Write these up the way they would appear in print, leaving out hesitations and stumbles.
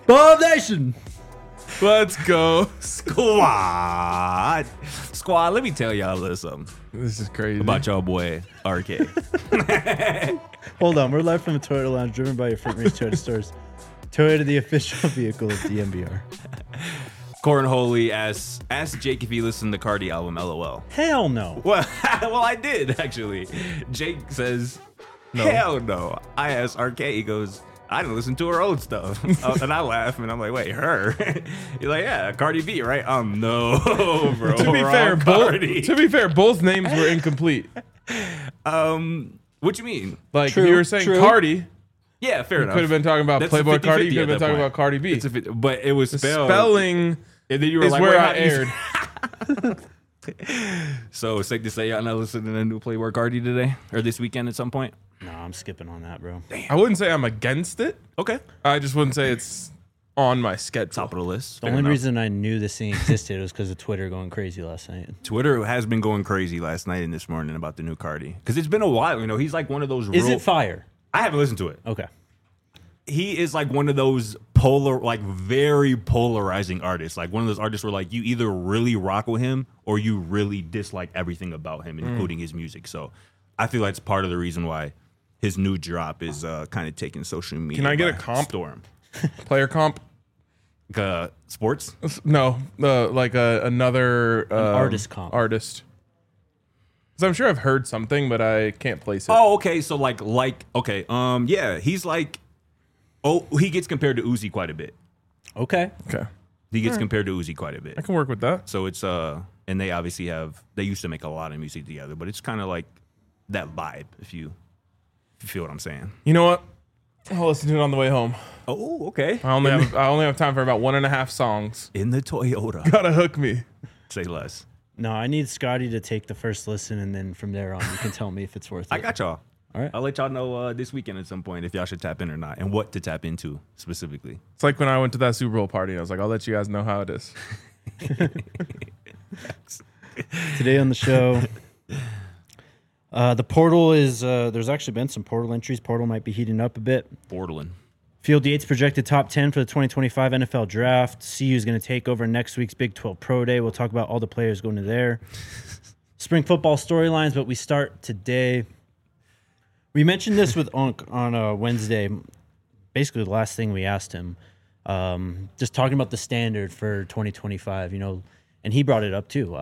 Bob Nation. Let's go. Squad. Let me tell y'all a little something This is crazy. about y'all boy RK. Hold on, we're live from the Toyota Lounge, driven by your Front Range Toyota stores. Toyota, the official vehicle of DMVR. Cornholey asked Jake if he listened to the Cardi album, LOL. Hell no. Well, I did, actually. Jake says, No. hell no. I asked RK, he goes, I didn't listen to her old stuff. And I laugh, and I'm like, wait, her? He's like, yeah, Cardi B, right? No, bro. To be fair, both names were incomplete. What you mean? Like True, if you were saying true. Cardi, Yeah, fair you enough. could have been talking about That's Playboy a 50-50 Cardi. You could at have been that talking point. about Cardi B. But it was The spelled. spelling And then you were is like, where wait, I how do you- aired. So it's safe to say y'all not listening to the new Playboy Cardi today or this weekend at some point? No, I'm skipping on that, bro. I wouldn't say I'm against it. Okay. I just wouldn't say it's on my schedule. Top of the list. The Fair only enough. reason I knew this thing existed was because of Twitter going crazy last night. Twitter has been going crazy last night and this morning about the new Cardi. Because it's been a while, he's like one of those Is it fire? I haven't listened to it. Okay. He is like one of those very polarizing artists. Like one of those artists where like you either really rock with him or you really dislike everything about him, including his music. So I feel like it's part of the reason why his new drop is kind of taking social media. Can I get a by comp? storm? Player comp? Sports? No, another artist comp. Artist. Because I'm sure I've heard something, but I can't place it. Oh, okay. So yeah, he's like, he gets compared to Uzi quite a bit. Okay. Okay, He gets compared to Uzi quite a bit. I can work with that. So it's and they obviously they used to make a lot of music together, but it's kind of like that vibe, if you feel what I'm saying. You know what? I'll listen to it on the way home. Oh, okay. I only have time for about 1.5 songs. In the Toyota. Gotta hook me. Say less. No, I need Scotty to take the first listen, and then from there on, you can tell me if it's worth it. I got y'all. All right. I'll let y'all know this weekend at some point if y'all should tap in or not, and what to tap into specifically. It's like when I went to that Super Bowl party. I was like, I'll let you guys know how it is. Today on the show, the portal is, there's actually been some portal entries. Portal might be heating up a bit. Borderland. Field Yates projected top 10 for the 2025 NFL Draft. CU is going to take over next week's Big 12 Pro Day. We'll talk about all the players going to there. Spring football storylines, but we start today. We mentioned this with Unk on Wednesday. Basically, the last thing we asked him, just talking about the standard for 2025, and he brought it up too.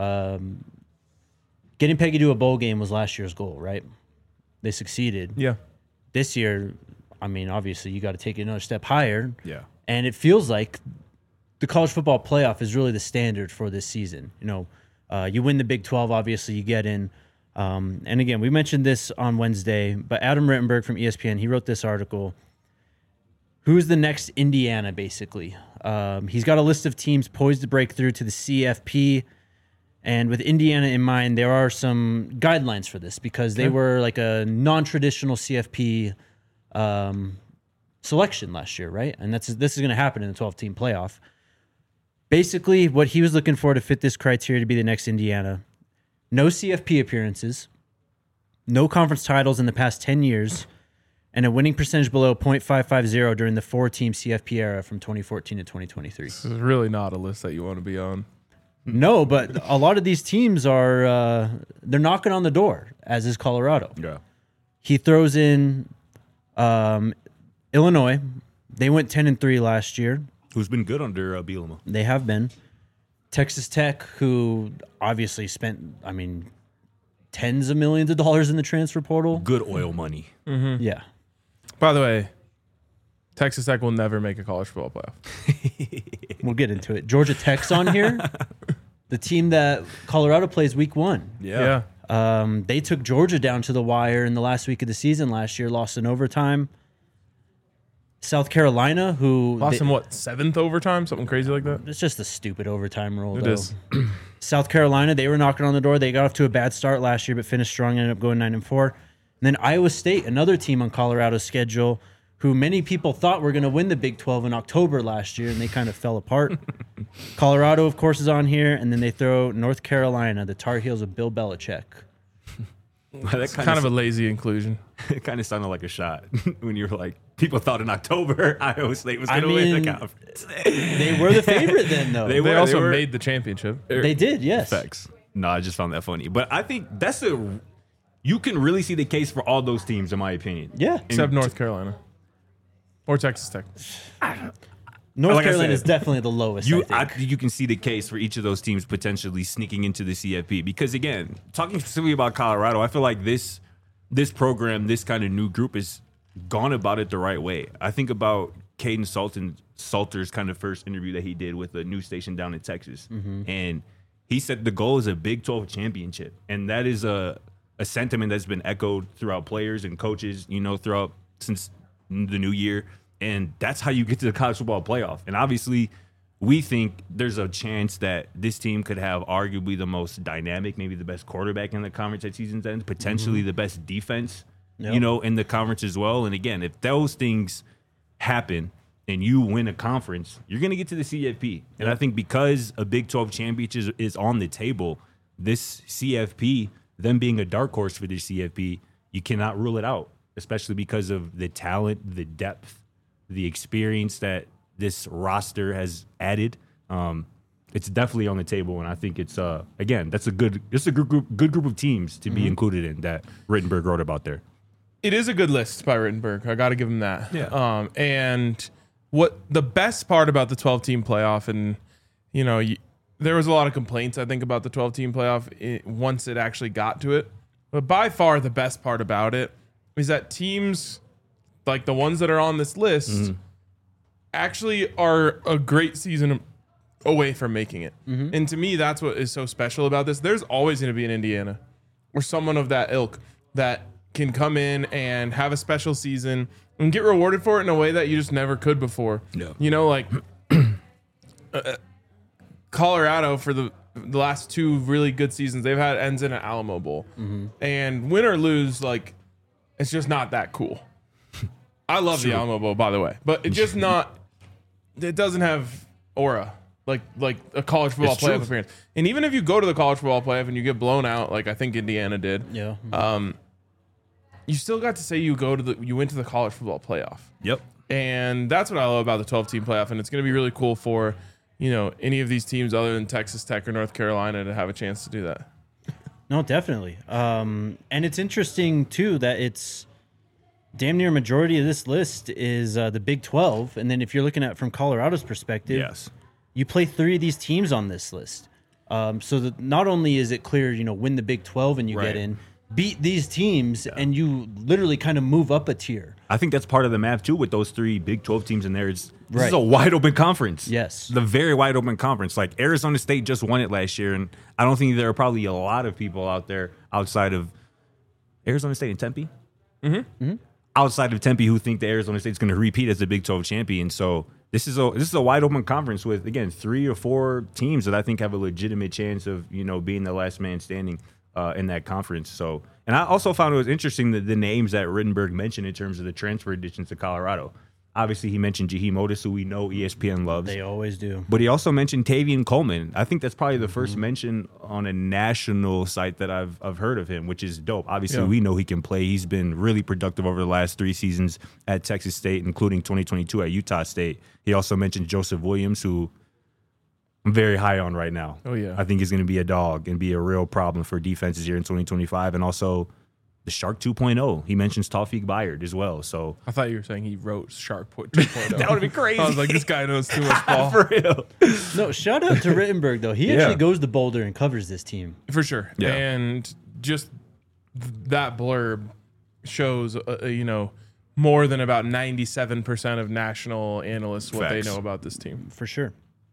Getting Peggy to a bowl game was last year's goal, right? They succeeded. Yeah. This year, obviously, you got to take it another step higher. Yeah. And it feels like the college football playoff is really the standard for this season. You win the Big 12, obviously, you get in. And again, we mentioned this on Wednesday, but Adam Rittenberg from ESPN, he wrote this article. Who's the next Indiana, basically? He's got a list of teams poised to break through to the CFP. And with Indiana in mind, there are some guidelines for this because they were like a non-traditional CFP selection last year, right? And this is going to happen in the 12-team playoff. Basically, what he was looking for to fit this criteria to be the next Indiana: no CFP appearances, no conference titles in the past 10 years, and a winning percentage below .550 during the 4-team CFP era from 2014 to 2023. This is really not a list that you want to be on. No, but a lot of these teams are they're knocking on the door, as is Colorado. Yeah. He throws in Illinois. They went 10-3 last year. Who's been good under Bielema. They have been. Texas Tech, who obviously spent, tens of millions of dollars in the transfer portal. Good oil money. Yeah. By the way, Texas Tech will never make a college football playoff. We'll get into it. Georgia Tech's on here. The team that Colorado plays week 1. Yeah. They took Georgia down to the wire in the last week of the season last year, lost in overtime. South Carolina, who Lost in what, 7th overtime? Something crazy like that? it's just a stupid overtime rule. It though. is. South Carolina, they were knocking on the door. They got off to a bad start last year, but finished strong and ended up going 9-4. And then Iowa State, another team on Colorado's schedule, who many people thought were going to win the Big 12 in October last year, and they kind of fell apart. Colorado, of course, is on here, and then they throw North Carolina, the Tar Heels of Bill Belichick. That Kind of a lazy inclusion. It kind of sounded like a shot when you were like, people thought in October Iowa State was going to win the conference. They were the favorite then, though. They also made the championship. They did, yes. Facts. No, I just found that funny. But I think you can really see the case for all those teams, in my opinion. Yeah. Except North Carolina. Or Texas Tech. North Carolina is definitely the lowest, I think. You can see the case for each of those teams potentially sneaking into the CFP. Because, again, talking specifically about Colorado, I feel like this program, this kind of new group is gone about it the right way. I think about Caden Salter's kind of first interview that he did with a news station down in Texas. And he said the goal is a Big 12 championship. And that is a sentiment that's been echoed throughout players and coaches, throughout since the new year. And that's how you get to the college football playoff. And obviously, we think there's a chance that this team could have arguably the most dynamic, maybe the best quarterback in the conference at season's end, potentially the best defense, in the conference as well. And again, if those things happen and you win a conference, you're going to get to the CFP. And I think because a Big 12 championship is on the table, this CFP, them being a dark horse for this CFP, you cannot rule it out, especially because of the talent, the depth, the experience that this roster has added. It's definitely on the table, and I think it's again, that's a good group of teams to be included in that Rittenberg wrote about there. It is a good list by Rittenberg. I got to give him that. Yeah. And what the best part about the 12-team playoff, and there was a lot of complaints I think about the 12-team playoff once it actually got to it, but by far the best part about it is that teams like the ones that are on this list actually are a great season away from making it. And to me, that's what is so special about this. There's always going to be an Indiana or someone of that ilk that can come in and have a special season and get rewarded for it in a way that you just never could before. Yeah. Like Colorado for the last two really good seasons, they've had ends in an Alamo Bowl. And win or lose, like, it's just not that cool. I love the Alamo Bowl, by the way, but it's just not. It doesn't have aura like a college football playoff appearance. And even if you go to the college football playoff and you get blown out, like I think Indiana did, you still got to say you went to the college football playoff. Yep. And that's what I love about the 12-team playoff, and it's going to be really cool for any of these teams other than Texas Tech or North Carolina to have a chance to do that. No, definitely. And it's interesting too that it's damn near a majority of this list is the Big 12. And then if you're looking at it from Colorado's perspective, Yes. you play 3 of these teams on this list. So that not only is it clear, win the Big 12 and you get in, beat these teams and you literally kind of move up a tier. I think that's part of the math too with those 3 Big 12 teams in there. This is a wide open conference. Yes. The very wide open conference. Like Arizona State just won it last year, and I don't think there are probably a lot of people out there outside of Arizona State and Tempe. Outside of Tempe who think that Arizona State's going to repeat as the Big 12 champion. So this is a wide open conference with, again, 3 or 4 teams that I think have a legitimate chance of being the last man standing in that conference. So, and I also found it was interesting that the names that Rittenberg mentioned in terms of the transfer additions to Colorado. Obviously, he mentioned Jaheim Otis, who we know ESPN loves. They always do. But he also mentioned Tavian Coleman. I think that's probably the first mention on a national site that I've heard of him, which is dope. Obviously, we know he can play. He's been really productive over the last 3 seasons at Texas State, including 2022 at Utah State. He also mentioned Joseph Williams, who I'm very high on right now. Oh, yeah. I think he's going to be a dog and be a real problem for defenses here in 2025. And also the Shark 2.0. He mentions Tawfiq Bayard as well. So I thought you were saying he wrote Shark 2.0. that would be crazy. I was like, this guy knows too much ball. For real. No, shout out to Rittenberg, though. He actually goes to Boulder and covers this team. For sure. Yeah. And just that blurb shows, more than about 97% of national analysts what Facts. they know about this team. For sure.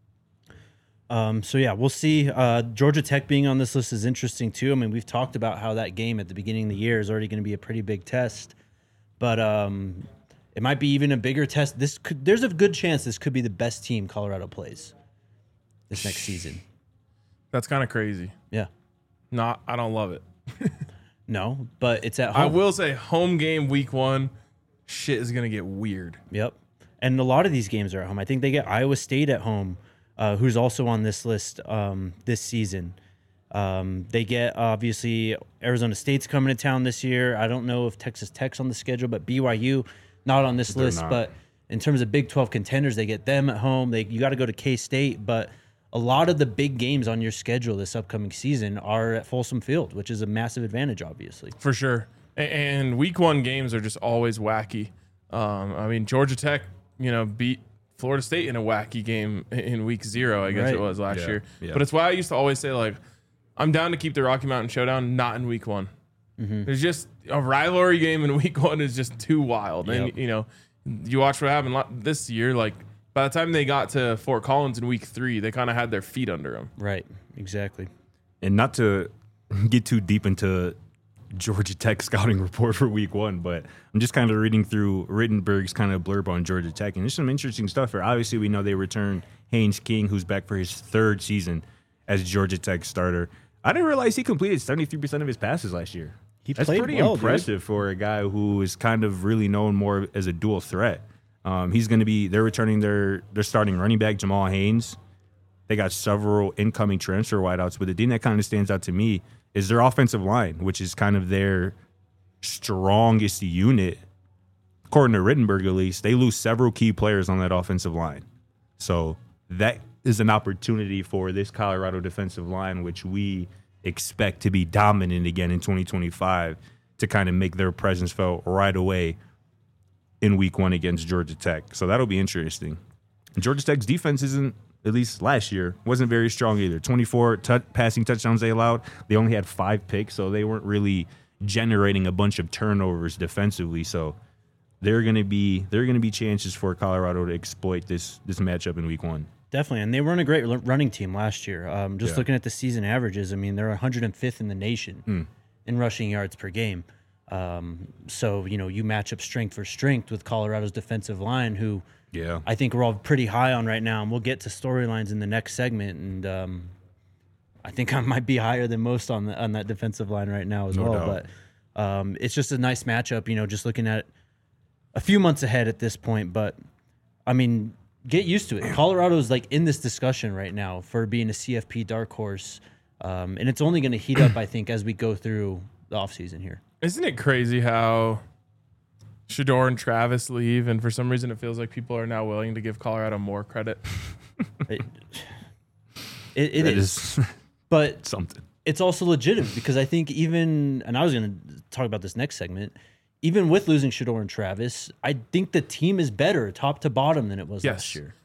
So yeah, we'll see. Georgia Tech being on this list is interesting too. I mean, we've talked about how that game at the beginning of the year is already going to be a pretty big test, but it might be even a bigger test. There's a good chance this could be the best team Colorado plays this next season. That's kind of crazy. Yeah. I don't love it. No, but it's at home. I will say home game week 1, shit is going to get weird. Yep. And a lot of these games are at home. I think they get Iowa State at home, who's also on this list this season. They get, obviously, Arizona State's coming to town this year. I don't know if Texas Tech's on the schedule, but BYU, not on this They're list, not. but in terms of Big 12 contenders, they get them at home. You got to go to K-State, but a lot of the big games on your schedule this upcoming season are at Folsom Field, which is a massive advantage, obviously. For sure. And week one games are just always wacky. I mean, Georgia Tech, beat Florida State in a wacky game in week 0, I guess Right. it was last Yeah, year. yeah. But it's why I used to always say, like, I'm down to keep the Rocky Mountain Showdown not in week 1. There's just a rivalry game in week 1 is just too wild. Yep. And, you watch what happened this year. Like, by the time they got to Fort Collins in week 3, they kind of had their feet under them. Right, exactly. And not to get too deep into Georgia Tech scouting report for week 1, but I'm just kind of reading through Rittenberg's kind of blurb on Georgia Tech, and there's some interesting stuff here. Obviously, we know they returned Haynes King, who's back for his 3rd season as Georgia Tech starter. I didn't realize he completed 73% of his passes last year. That's played pretty well, impressive for a guy who is kind of really known more as a dual threat. He's going to be, they're returning their starting running back, Jamal Haynes. They got several incoming transfer wideouts, but the thing that kind of stands out to me is their offensive line, which is kind of their strongest unit. According to Rittenberg, at least, they lose several key players on that offensive line. So that is an opportunity for this Colorado defensive line, which we expect to be dominant again in 2025, to kind of make their presence felt right away in week 1 against Georgia Tech. So that'll be interesting. And Georgia Tech's defense isn't, at least last year, wasn't very strong either. 24 passing touchdowns they allowed. They only had 5 picks, so they weren't really generating a bunch of turnovers defensively. So there are going to be chances for Colorado to exploit this matchup in week 1. Definitely, and they weren't a great running team last year. Just Yeah. looking at the season averages, I mean, they're 105th in the nation in rushing yards per game. So, you match up strength for strength with Colorado's defensive line, who Yeah. I think we're all pretty high on right now, and we'll get to storylines in the next segment. And I think I might be higher than most on that defensive line right now as No well. doubt. But it's just a nice matchup, just looking at a few months ahead at this point. But I mean, get used to it. Colorado's like in this discussion right now for being a CFP dark horse, and it's only going to heat up, I think, as we go through the offseason here. Isn't it crazy how Shador and Travis leave, and for some reason it feels like people are now willing to give Colorado more credit? It That is, is but something. it's also legitimate because I think and I was going to talk about this next segment, even with losing Shador and Travis, I think the team is better top to bottom than it was last year.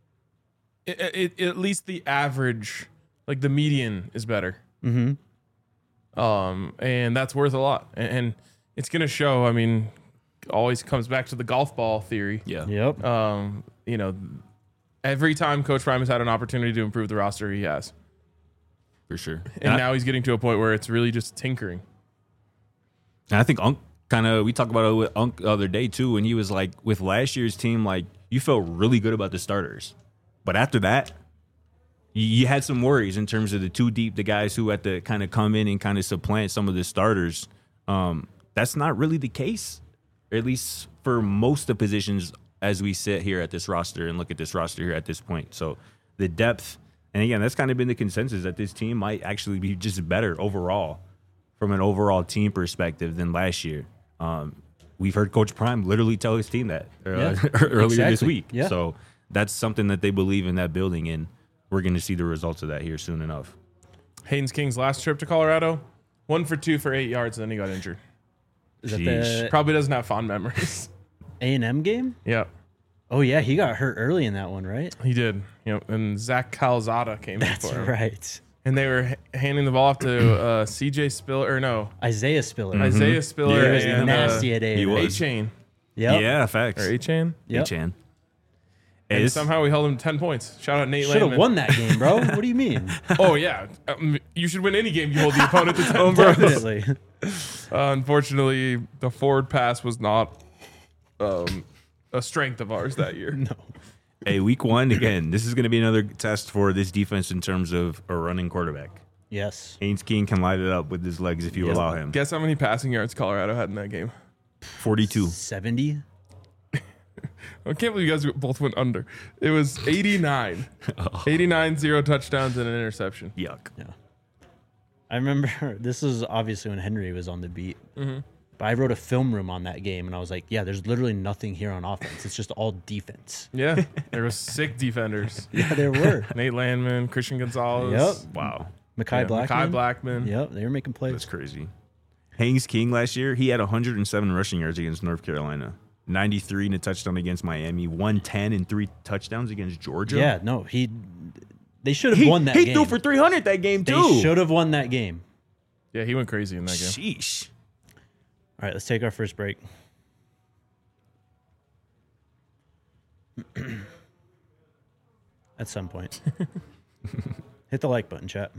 At least the average, like the median, is better. Mm-hmm. And that's worth a lot. And it's going to show. I mean, always comes back to the golf ball theory. Yeah. Yep. Every time Coach Prime has had an opportunity to improve the roster, he has. For sure. And now he's getting to a point where it's really just tinkering. And I think Unk we talked about it with Unk the other day too, and he was like, with last year's team, like, you felt really good about the starters. But after that, you had some worries in terms of the too deep, the guys who had to kind of come in and kind of supplant some of the starters. That's not really the case, or at least for most of the positions as we sit here at this roster and look at this roster here at this point. So the depth, and again, that's kind of been the consensus that this team might actually be just better overall from an overall team perspective than last year. We've heard Coach Prime literally tell his team that earlier this exactly. week. Yeah. So that's something that they believe in that building, and we're going to see the results of that here soon enough. Haynes King's last trip to Colorado, 1 for 2 for 8 yards, and then he got injured. Is that Sheesh. the Probably doesn't have fond memories. A&M game? Yeah, Oh, yeah, he got hurt early in that one, right? he did. And Zach Calzada came in That's for him. right. And they were handing the ball off to CJ Spiller, or no, Isaiah Spiller. Isaiah Spiller Yeah, He was and nasty at A&M. He was. A-Chain. Yep. Yeah, facts. Or A-Chain. Yep. Chan. And somehow we held him 10 points. Shout out Nate Should have Landman. won that game, bro. What do you mean? Oh, yeah. You should win any game you hold the opponent to 10, bro. Definitely. Unfortunately, the forward pass was not a strength of ours that year. No. Hey, week 1, again, this is going to be another test for this defense in terms of a running quarterback. Yes. Haynes King can light it up with his legs if you Yep. allow him. Guess how many passing yards Colorado had in that game? 42. 70? I can't believe you guys both went under. It was 89. 89, 0 touchdowns and an interception. Yuck. Yeah. I remember this was obviously when Henry was on the beat. Mm-hmm. But I wrote a film room on that game, and I was like, yeah, there's literally nothing here on offense. It's just all defense. Yeah, there was sick defenders. Yeah, there were. Nate Landman, Christian Gonzalez. Yep. Wow. Mekhi Blackman. Mekhi Blackman. Yep, they were making plays. That's crazy. Haynes King last year, he had 107 rushing yards against North Carolina, 93 and a touchdown against Miami, 110 and 3 touchdowns against Georgia. Yeah, no, they should have won that game. He threw for 300 that game, too. They should have won that game. Yeah, he went crazy in that game. Sheesh. All right, let's take our first break. At some point. Hit the like button, chat.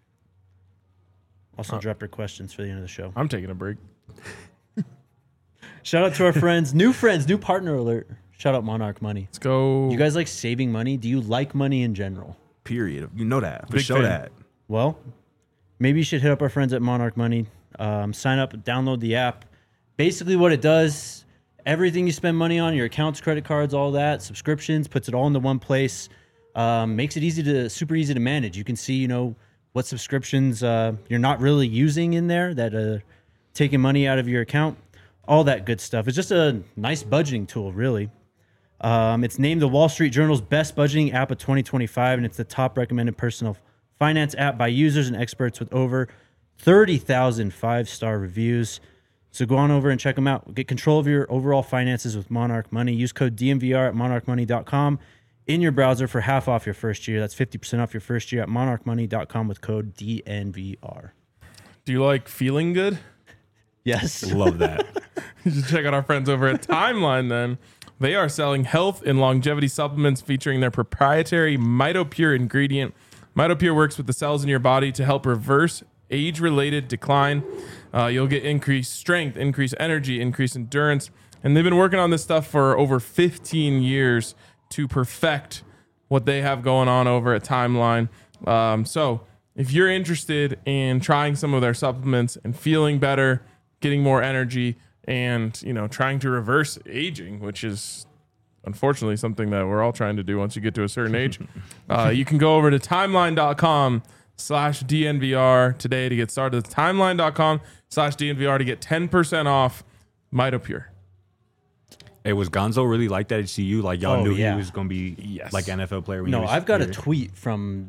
Also, drop your questions for the end of the show. I'm taking a break. Shout out to our friends, new partner alert. Shout out Monarch Money. Let's go. You guys like saving money? Do you like money in general? Period. You know that. For Big sure fan. that. Well, maybe you should hit up our friends at Monarch Money. Sign up, download the app. Basically what it does, everything you spend money on, your accounts, credit cards, all that, subscriptions, puts it all into one place. Makes it super easy to manage. You can see, what subscriptions you're not really using in there that are taking money out of your account, all that good stuff. It's just a nice budgeting tool, really. It's named the Wall Street Journal's best budgeting app of 2025, and it's the top recommended personal finance app by users and experts with over 30,000 5-star reviews. So go on over and check them out. Get control of your overall finances with Monarch Money. Use code DMVR at monarchmoney.com in your browser for half off your first year. That's 50% off your first year at monarchmoney.com with code DNVR. Do you like feeling good? Yes. Love that. You should check out our friends over at Timeline then. They are selling health and longevity supplements featuring their proprietary MitoPure ingredient. MitoPure works with the cells in your body to help reverse age-related decline. You'll get increased strength, increased energy, increased endurance. And they've been working on this stuff for over 15 years to perfect what they have going on over at Timeline. So if you're interested in trying some of their supplements and feeling better, getting more energy, and trying to reverse aging, which is unfortunately something that we're all trying to do once you get to a certain age, you can go over to timeline.com/DNVR today to get started. It's timeline.com/DNVR to get 10% off MitoPure. Hey, was Gonzo really like that at CU? Like, y'all knew yeah. he was going to be Yes. like NFL player when he No, was I've got a here? tweet from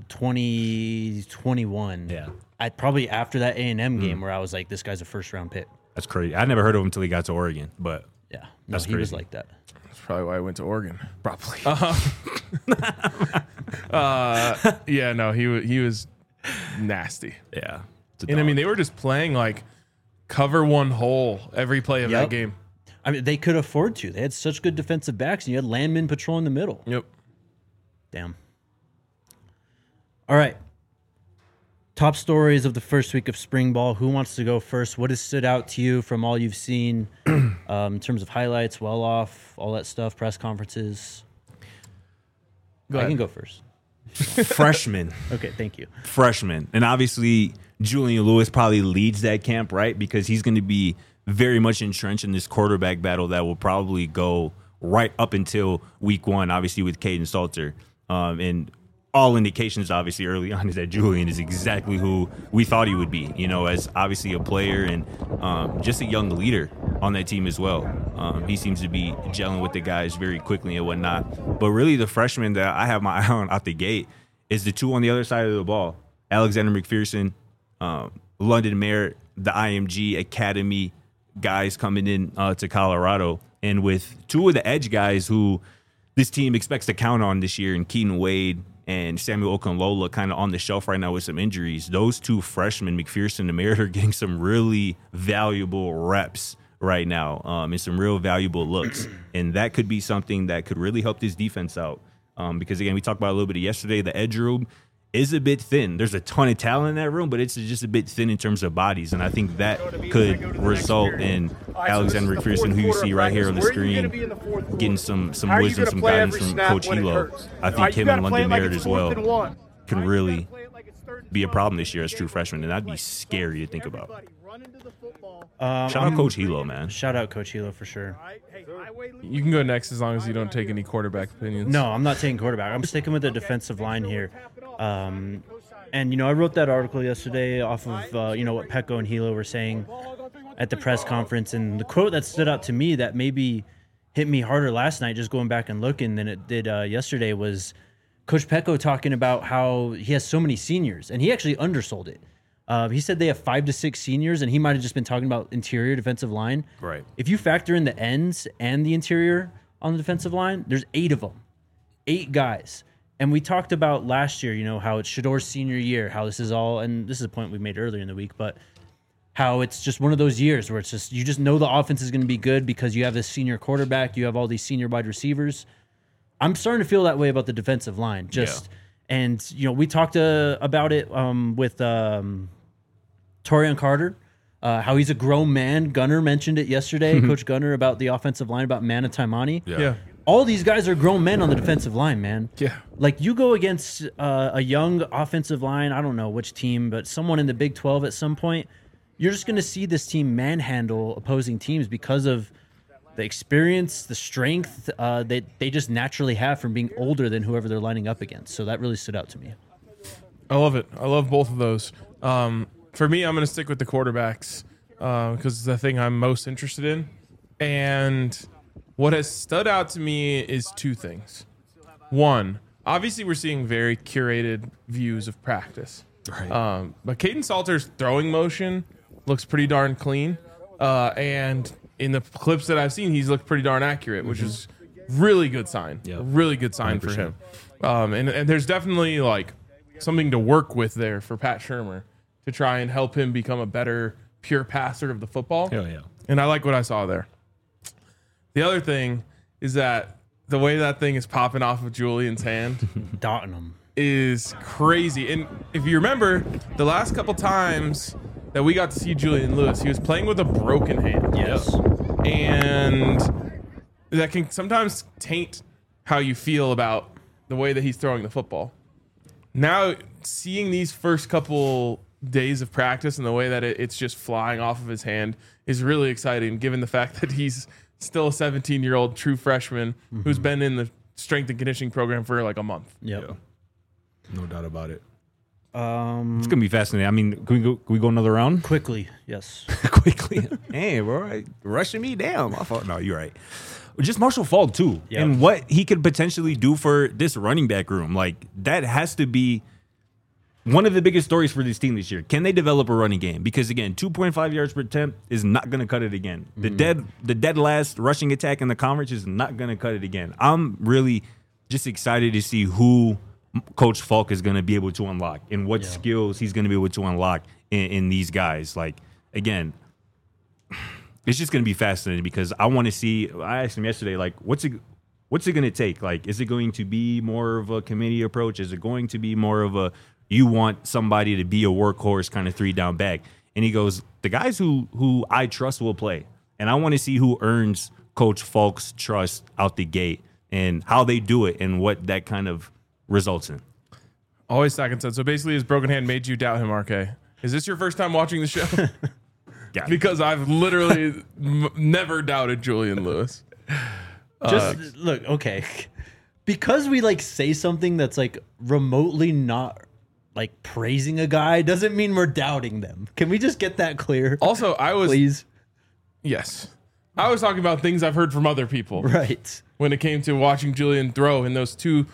2021. Yeah. Probably after that A&M game where I was like, this guy's a first-round pick. That's crazy. I never heard of him until he got to Oregon, but Yeah. No, That's he was crazy. like that. That's probably why I went to Oregon. probably. Yeah, no, he was nasty. yeah. It's a And I dog. mean, they were just playing like cover one hole every play of Yep. that game. I mean, they could afford to. They had such good defensive backs, and you had Landman patrolling the middle. Yep. Damn. All right. Top stories of the first week of spring ball. Who wants to go first? What has stood out to you from all you've seen in terms of highlights, well off, all that stuff, press conferences? Go I ahead. can go first. freshman. Okay, thank you. Freshman. And obviously, Julian Lewis probably leads that camp, right? Because he's going to be very much entrenched in this quarterback battle that will probably go right up until week one, obviously, with Caden Salter. And all indications, obviously, early on is that Julian is exactly who we thought he would be, as obviously a player and just a young leader on that team as well. He seems to be gelling with the guys very quickly and whatnot. But really, the freshman that I have my eye on out the gate is the two on the other side of the ball. Alexander McPherson, London Merritt, the IMG Academy guys coming in to Colorado. And with two of the edge guys who this team expects to count on this year, and Keaton Wade and Samuel Okunlola kind of on the shelf right now with some injuries, those two freshmen, McPherson and Merritt, are getting some really valuable reps right now and some real valuable looks. And that could be something that could really help this defense out. Because, again, we talked about a little bit yesterday, the edge room is a bit thin. There's a ton of talent in that room, but it's just a bit thin in terms of bodies. And I think that could result in Alexander McPherson, who you see right here on the screen, getting some wisdom, some guidance from Coach Hilo. I think him and London Merritt as well can really be a problem this year as true freshmen, and that'd be scary to think about. Shout out Coach Hilo, man. Shout out Coach Hilo for sure. You can go next as long as you don't take any quarterback opinions. No, I'm not taking quarterback. I'm sticking with the defensive line here. And, I wrote that article yesterday off of, what Pecco and Hilo were saying. at the press conference. And the quote that stood out to me that maybe hit me harder last night, just going back and looking, than it did yesterday, was Coach Pecco talking about how he has so many seniors, and he actually undersold it. He said they have 5 to 6 seniors, and he might have just been talking about interior defensive line. Right. If you factor in the ends and the interior on the defensive line, there's 8 of them, 8 guys. And we talked about last year, how it's Shedor's senior year, how this is all, and this is a point we made earlier in the week, but how it's just one of those years where it's just, you just know the offense is going to be good because you have this senior quarterback, you have all these senior wide receivers. I'm starting to feel that way about the defensive line. And we talked about it with Torian Carter, how he's a grown man. Gunner mentioned it yesterday, Coach Gunner, about the offensive line, about Mana Taimani. Yeah. All these guys are grown men on the defensive line, man. Yeah. Like, you go against a young offensive line, I don't know which team, but someone in the Big 12 at some point, you're just going to see this team manhandle opposing teams because of the experience, the strength that they just naturally have from being older than whoever they're lining up against. So that really stood out to me. I love it. I love both of those. For me, I'm going to stick with the quarterbacks because it's the thing I'm most interested in. And what has stood out to me is 2 things. One, obviously we're seeing very curated views of practice. Right. But Caden Salter's throwing motion looks pretty darn clean. And in the clips that I've seen, he's looked pretty darn accurate, which is really good sign. Yeah. A really good sign 100%. For him. And there's definitely like something to work with there for Pat Shurmur to try and help him become a better pure passer of the football. Hell yeah. And I like what I saw there. The other thing is that the way that thing is popping off of Julian's hand Dotting them is crazy. And if you remember, the last couple times that we got to see Julian Lewis, he was playing with a broken hand. Yes. And that can sometimes taint how you feel about the way that he's throwing the football. Now, seeing these first couple days of practice and the way that it's just flying off of his hand is really exciting, given the fact that he's still a 17-year-old true freshman who's been in the strength and conditioning program for like a month. Yep. Yeah. No doubt about it. It's gonna be fascinating. I mean, can we go another round? Quickly, yes. Quickly. Hey, bro, rushing me down. My fault. No, you're right. Just Marshall Faulk too, Yep. and what he could potentially do for this running back room. Like, that has to be one of the biggest stories for this team this year. Can they develop a running game? Because again, 2.5 yards per attempt is not going to cut it again. The dead last rushing attack in the conference is not going to cut it again. I'm really just excited to see who Coach Faulk is going to be able to unlock and what skills he's going to be able to unlock in these guys. Like, again, it's just going to be fascinating because I want to see. I asked him yesterday, like, what's it going to take? Like, is it going to be more of a committee approach? Is it going to be more of a, you want somebody to be a workhorse kind of 3-down back? And he goes, the guys who I trust will play. And I want to see who earns Coach Faulk's trust out the gate and how they do it and what that kind of results in. Always second said. So basically, his broken hand made you doubt him, RK. Is this your first time watching the show? Yeah. Because I've literally never doubted Julian Lewis. Just look, okay. Because we like say something that's like remotely not like praising a guy doesn't mean we're doubting them. Can we just get that clear? Also, Please. Yes. I was talking about things I've heard from other people. Right. When it came to watching Julian throw in those 2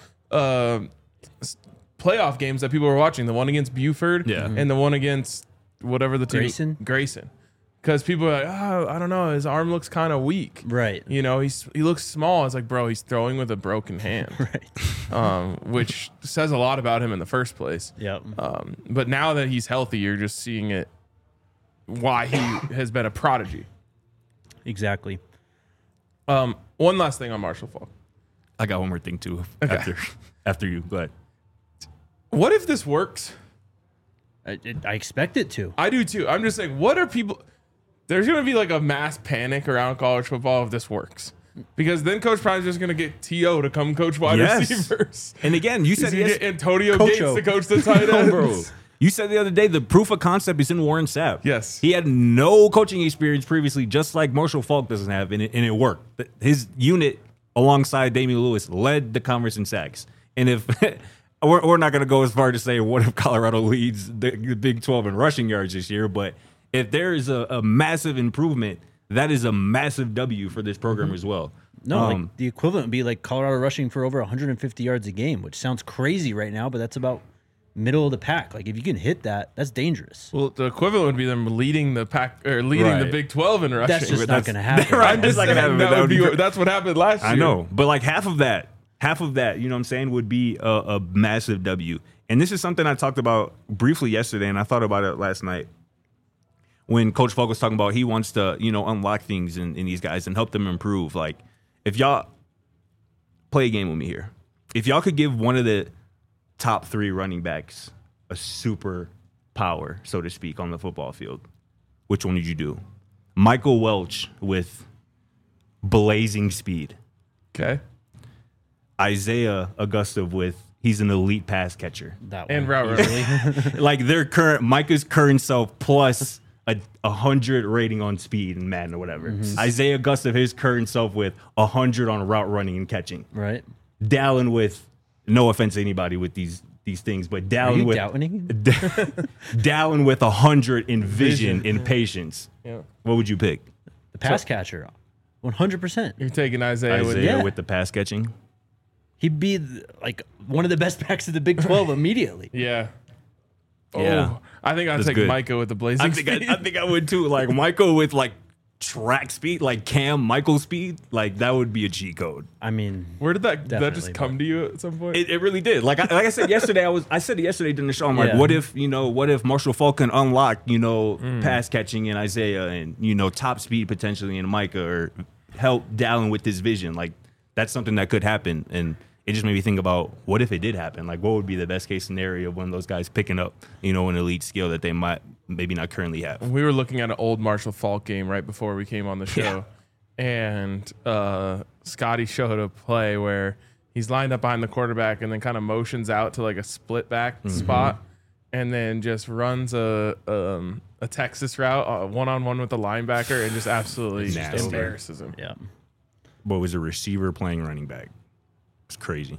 playoff games that people were watching, the one against Buford and the one against whatever the team. Grayson. Because people are like, oh, I don't know, his arm looks kind of weak. Right. You know, he looks small. It's like, bro, he's throwing with a broken hand. Right. Which says a lot about him in the first place. Yep. But now that he's healthy, you're just seeing it, why he has been a prodigy. Exactly. One last thing on Marshall Faulk. I got one more thing too. Okay. After you, go ahead. What if this works? I expect it to. I do too. I'm just saying, what are people? There's going to be like a mass panic around college football if this works. Because then Coach Prime's just going to get T.O. to come coach wide receivers. And again, you said get Antonio Gates to coach the tight ends. Bro. You said the other day the proof of concept is in Warren Sapp. Yes. He had no coaching experience previously, just like Marshall Faulk doesn't have, and it worked. His unit alongside Damian Lewis led the conference in sacks. And if we're not going to go as far to say what if Colorado leads the Big 12 in rushing yards this year, but if there is a massive improvement, that is a massive W for this program as well. No, like the equivalent would be like Colorado rushing for over 150 yards a game, which sounds crazy right now, but that's about middle of the pack. Like if you can hit that, that's dangerous. Well, the equivalent would be them leading the pack or leading the Right. Big 12 in rushing. That's just not going to happen. Right. I'm just That's not saying gonna happen. that's what happened last year. I know, but like half of that, you know what I'm saying, would be a massive W. And this is something I talked about briefly yesterday, and I thought about it last night when Coach Falk was talking about he wants to, unlock things in these guys and help them improve. Like, if y'all play a game with me here, if y'all could give one of the top 3 running backs a super power, so to speak, on the football field, which one would you do? Michael Welch with blazing speed. Okay. Isaiah Augusta with he's an elite pass catcher. That And one, route easily. Like Micah's current self plus a 100 rating on speed in Madden or whatever. Isaiah Augusta, his current self with 100 on route running and catching. Right? Dallin with, no offense to anybody with these things, but Are Dallin you with doubting? Dallin with 100 in vision and patience. Yeah. What would you pick? The pass catcher, 100%. You're taking Isaiah with Isaiah Yeah. with the pass catching. He'd be like one of the best backs of the Big 12 immediately. Yeah. Yeah. Oh, I think I'd That's take good. Micah with the blazing I think speed. I think I would too. Like Michael with like track speed, like Cam Michael speed, like that would be a cheat code. I mean, Where did that Definitely, just come to you at some point? It really did. Like I said yesterday, I said it yesterday during the show. I'm like, Yeah. what if Marshall Falk can unlock, pass catching in Isaiah and top speed potentially in Micah, or help Dallin with this vision? Like that's something that could happen. And it just made me think about what if it did happen? Like what would be the best case scenario of one of those guys picking up, an elite skill that they might maybe not currently have. We were looking at an old Marshall Falk game right before we came on the show, and Scotty showed a play where he's lined up behind the quarterback and then kind of motions out to like a split back spot, and then just runs a Texas route one-on-one with the linebacker and just absolutely Nasty. embarrasses him. yeah. But was a receiver playing running back? It's crazy.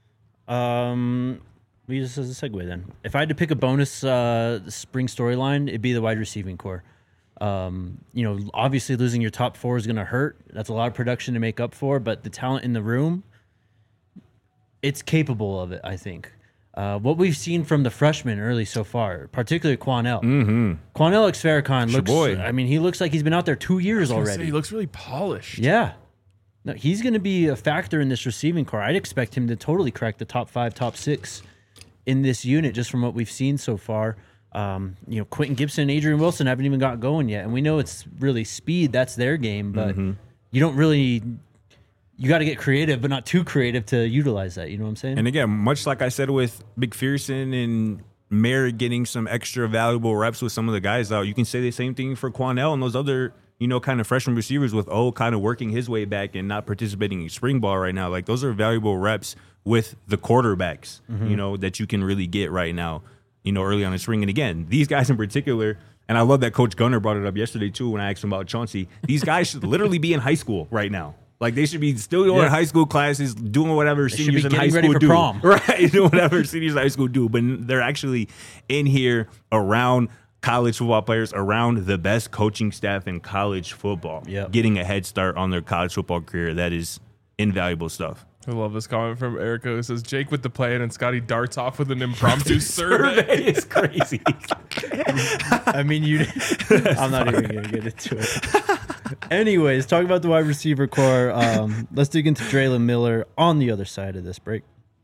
We use this as a segue then. If I had to pick a bonus spring storyline, it'd be the wide receiving core. Obviously losing your top 4 is going to hurt. That's a lot of production to make up for, but the talent in the room, it's capable of it, I think. What we've seen from the freshmen early so far, particularly Quanell. Quanell X-Farrakhan looks, boy. I mean, he looks like he's been out there 2 years already. He looks really polished. Yeah. No, he's going to be a factor in this receiving core. I'd expect him to totally crack the top 5, top 6 in this unit just from what we've seen so far. Quentin Gibson and Adrian Wilson haven't even got going yet. And we know it's really speed. That's their game. But you don't really – you got to get creative, but not too creative to utilize that. You know what I'm saying? And again, much like I said with McPherson and Merritt getting some extra valuable reps with some of the guys out, you can say the same thing for Quanell and those other – kind of freshman receivers with kind of working his way back and not participating in spring ball right now. Like those are valuable reps with the quarterbacks, that you can really get right now, early on in spring. And again, these guys in particular, and I love that Coach Gunner brought it up yesterday too when I asked him about Chauncey. These guys should literally be in high school right now. Like they should be still doing high school classes, doing whatever should seniors be in high getting ready school for do. prom. Right, doing whatever seniors in high school do. But they're actually in here around college football players, around the best coaching staff in college football, getting a head start on their college football career. That is invaluable stuff. I love this comment from Erica who says, Jake with the plan and Scotty darts off with an impromptu survey. It's crazy. I mean, I'm not even going to get into it. Anyways, talking about the wide receiver core, let's dig into Draylon Miller on the other side of this break.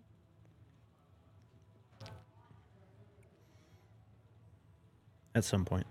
At some point.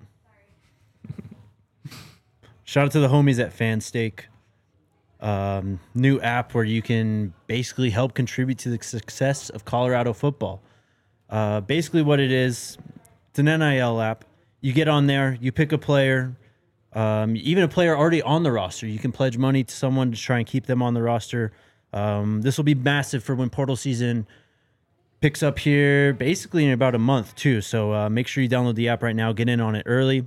Shout out to the homies at FanStake. New app where you can basically help contribute to the success of Colorado football. Basically what it is, it's an NIL app. You get on there, you pick a player, even a player already on the roster. You can pledge money to someone to try and keep them on the roster. This will be massive for when portal season picks up here basically in about a month too. So make sure you download the app right now. Get in on it early.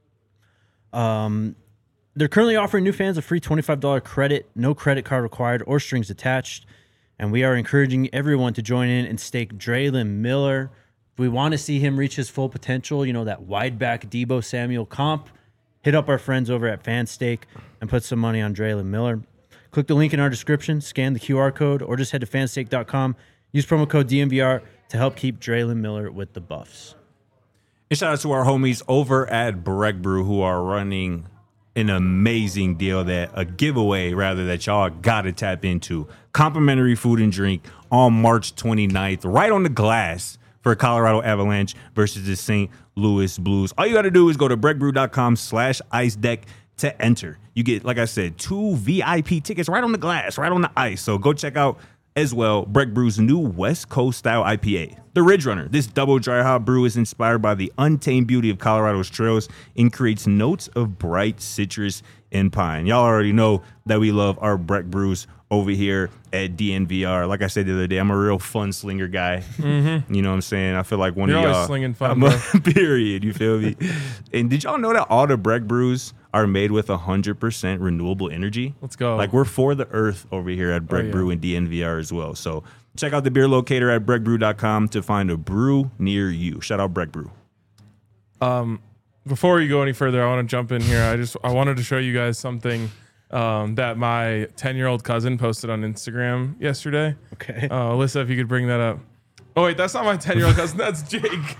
They're currently offering new fans a free $25 credit, no credit card required or strings attached. And we are encouraging everyone to join in and stake Draylon Miller we want to see him reach his full potential, that wide back Debo Samuel comp, hit up our friends over at FanStake and put some money on Draylon Miller. Click the link in our description, scan the QR code, or just head to fanstake.com. Use promo code DNVR to help keep Draylon Miller with the Buffs. And shout out to our homies over at Breck Brew who are running an amazing deal, a giveaway rather, that y'all got to tap into. Complimentary food and drink on March 29th, right on the glass for Colorado Avalanche versus the St. Louis Blues. All you got to do is go to breckbrew.com/ice deck to enter. You get, like I said, 2 VIP tickets right on the glass, right on the ice. So go check out as well Breck Brew's new West Coast style IPA, the Ridge Runner. This double dry hop brew is inspired by the untamed beauty of Colorado's trails and creates notes of bright citrus and pine. Y'all already know that we love our Breck Brews over here at DNVR. Like I said the other day, I'm a real fun slinger guy. Mm-hmm. You know what I'm saying? I feel like one You're of y'all. Always slinging fun, bro. Period. You feel me? And did y'all know that all the Breck Brews are made with 100% renewable energy? Let's go. Like, we're for the earth over here at Breck Brew and DNVR as well. So check out the beer locator at breckbrew.com to find a brew near you. Shout out Breck Brew. Before you go any further, I want to jump in here. I wanted to show you guys something that my 10-year-old cousin posted on Instagram yesterday. Okay. Alyssa, if you could bring that up. Oh, wait, that's not my 10-year-old cousin. That's Jake.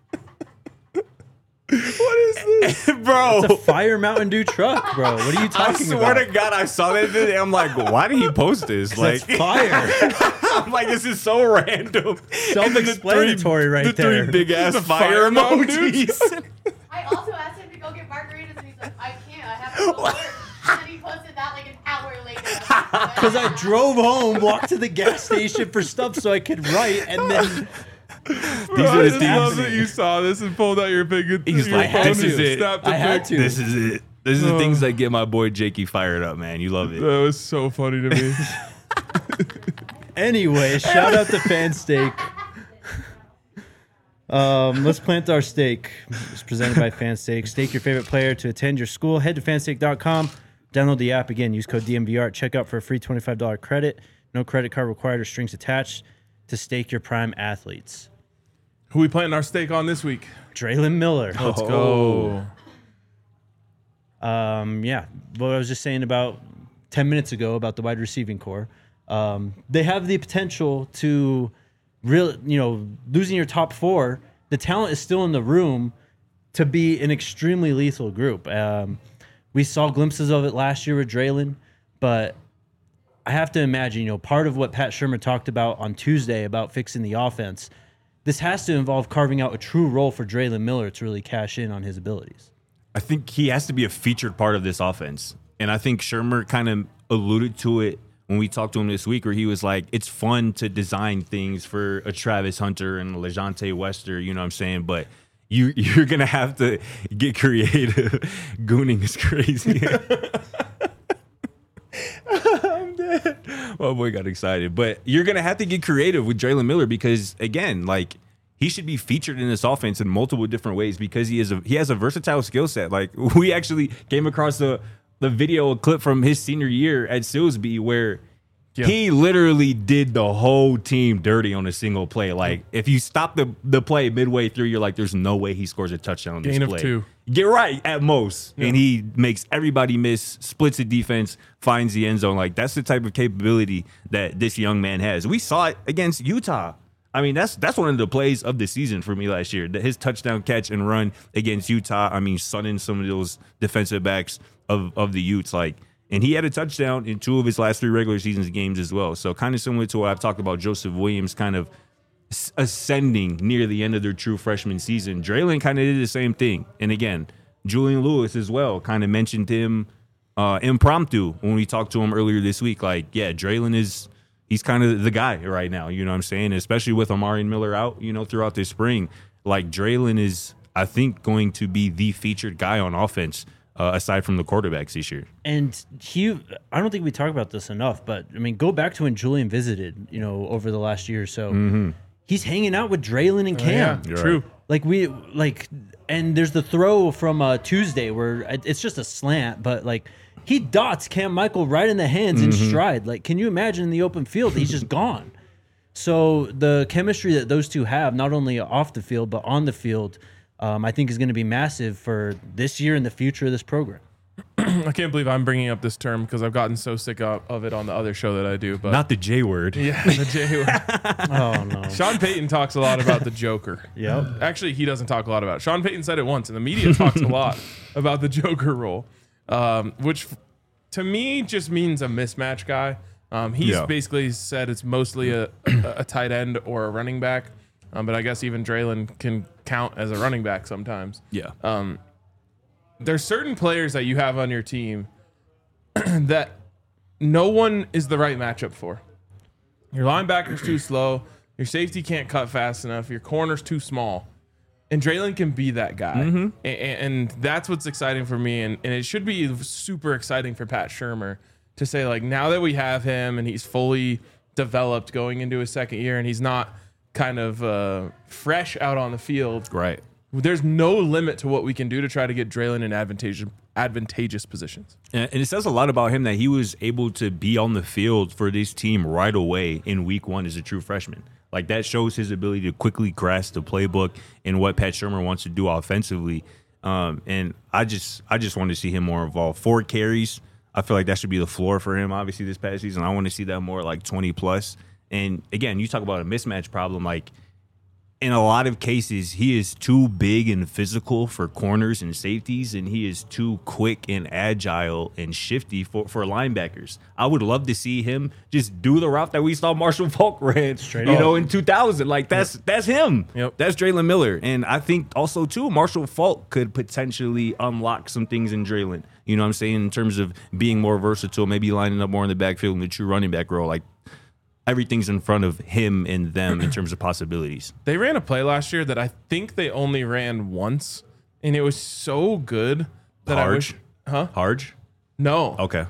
What is this? Bro. It's a Fire Mountain Dew truck, bro. What are you talking about? I swear to God, I saw that today. I'm like, why did he post this? Like, That's fire. I'm like, this is so random. Self-explanatory right the there. The 3 big ass The fire fire emojis. emojis. I also asked him to go get margaritas, and he's like, I can't. I have to go work. And then he posted that like an hour later. Because I drove home, walked to the gas station for stuff so I could write, and then These Bro, are I the just love things. that you saw this and pulled out your big. He's your like, phone this and is it. snapped the I had pic. to. This is it. This is the things that get my boy Jakey fired up, man. You love it. That was so funny to me. anyway, shout out to FanStake. Let's plant our stake. It's presented by FanStake. Stake your favorite player to attend your school. Head to fanstake.com. Download the app. Again, use code DMVR at checkout for a free $25 credit. No credit card required or strings attached to stake your prime athletes. Who we planting our stake on this week? Draylon Miller. Let's go. Yeah, what I was just saying about 10 minutes ago about the wide receiving core. They have the potential to really, losing your top 4, the talent is still in the room to be an extremely lethal group. We saw glimpses of it last year with Draylon, but I have to imagine, part of what Pat Shurmur talked about on Tuesday about fixing the offense, this has to involve carving out a true role for Draylon Miller to really cash in on his abilities. I think he has to be a featured part of this offense. And I think Shurmur kind of alluded to it when we talked to him this week, where he was like, it's fun to design things for a Travis Hunter and LeJontay Wester, you know what I'm saying? But you're going to have to get creative. Gooning is crazy. I'm dead. My boy got excited. But you're going to have to get creative with Draylon Miller because, again, like, he should be featured in this offense in multiple different ways because he has a versatile skill set. Like, we actually came across the video, a clip from his senior year at Silsbee where he literally did the whole team dirty on a single play. Like, if you stop the play midway through, you're like, there's no way he scores a touchdown on this Gain play. of 2. Get right at most. Yeah. And he makes everybody miss, splits the defense, finds the end zone. Like, that's the type of capability that this young man has. We saw it against Utah. I mean, that's one of the plays of the season for me last year. His touchdown catch and run against Utah. I mean, sunning some of those defensive backs of the Utes. Like, and he had a touchdown in 2 of his last 3 regular season games as well. So kind of similar to what I've talked about Joseph Williams kind of ascending near the end of their true freshman season. Draylon kind of did the same thing. And again, Julian Lewis as well kind of mentioned him impromptu when we talked to him earlier this week. Like, yeah, Draylon he's kind of the guy right now, you know what I'm saying? Especially with Amari Miller out, throughout this spring. Like, Draylon is, I think, going to be the featured guy on offense aside from the quarterbacks this year. And I don't think we talk about this enough, but I mean, go back to when Julian visited, over the last year or so. Mm-hmm. He's hanging out with Draylon and Cam. Yeah, true. Right. And there's the throw from Tuesday where it's just a slant, but he dots Cam Michael right in the hands in stride. Like, can you imagine in the open field? He's just gone. So the chemistry that those two have, not only off the field but on the field, I think is going to be massive for this year and the future of this program. I can't believe I'm bringing up this term because I've gotten so sick of it on the other show that I do. But Not the J word. yeah, the J word. Oh no. Sean Payton talks a lot about the Joker. Yep. Actually, he doesn't talk a lot about it. Sean Payton said it once, and the media talks a lot about the Joker role, which to me just means a mismatch guy. He's basically said it's mostly a tight end or a running back, but I guess even Draylon can count as a running back sometimes. Yeah. There's certain players that you have on your team that no one is the right matchup for. Your linebacker's too slow. Your safety can't cut fast enough. Your corner's too small. And Draylon can be that guy. And that's what's exciting for me. And it should be super exciting for Pat Shurmur to say, like, now that we have him and he's fully developed going into his second year and he's not kind of fresh out on the field. Right. There's no limit to what we can do to try to get Draylon in advantageous positions. And it says a lot about him that he was able to be on the field for this team right away in week 1 as a true freshman. Like, that shows his ability to quickly grasp the playbook and what Pat Shurmur wants to do offensively. And I just want to see him more involved. 4 carries, I feel like that should be the floor for him, obviously, this past season. I want to see that more like 20 plus. And again, you talk about a mismatch problem, like, in a lot of cases, he is too big and physical for corners and safeties, and he is too quick and agile and shifty for linebackers. I would love to see him just do the route that we saw Marshall Faulk ran, in 2000. Like, that's him. Yep. That's Draylon Miller. And I think also, too, Marshall Faulk could potentially unlock some things in Draylon. You know what I'm saying? In terms of being more versatile, maybe lining up more in the backfield in the true running back role. Like, everything's in front of him and them in terms of possibilities. They ran a play last year that I think they only ran once, and it was so good that I wish. Harge? No. Okay.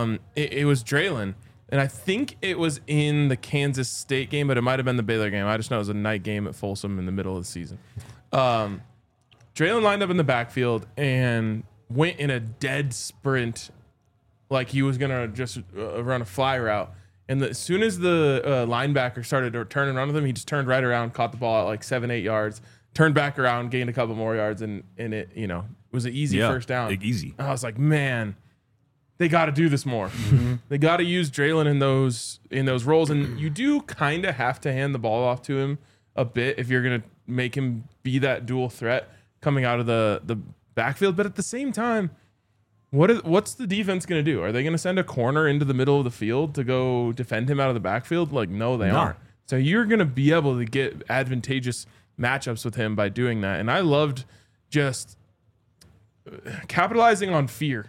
It was Draylon, and I think it was in the Kansas State game, but it might have been the Baylor game. I just know it was a night game at Folsom in the middle of the season. Draylon lined up in the backfield and went in a dead sprint, like he was gonna just run a fly route. And as soon as the linebacker started to turn and run with him, he just turned right around, caught the ball at like 7-8 yards, turned back around, gained a couple more yards, and it was an easy first down. Easy. I was like, man, they got to do this more. They got to use Draylon in those roles, and you do kind of have to hand the ball off to him a bit if you're gonna make him be that dual threat coming out of the backfield. But at the same time, what's the defense going to do? Are they going to send a corner into the middle of the field to go defend him out of the backfield? Like, no, they aren't. So you're going to be able to get advantageous matchups with him by doing that. And I loved just capitalizing on fear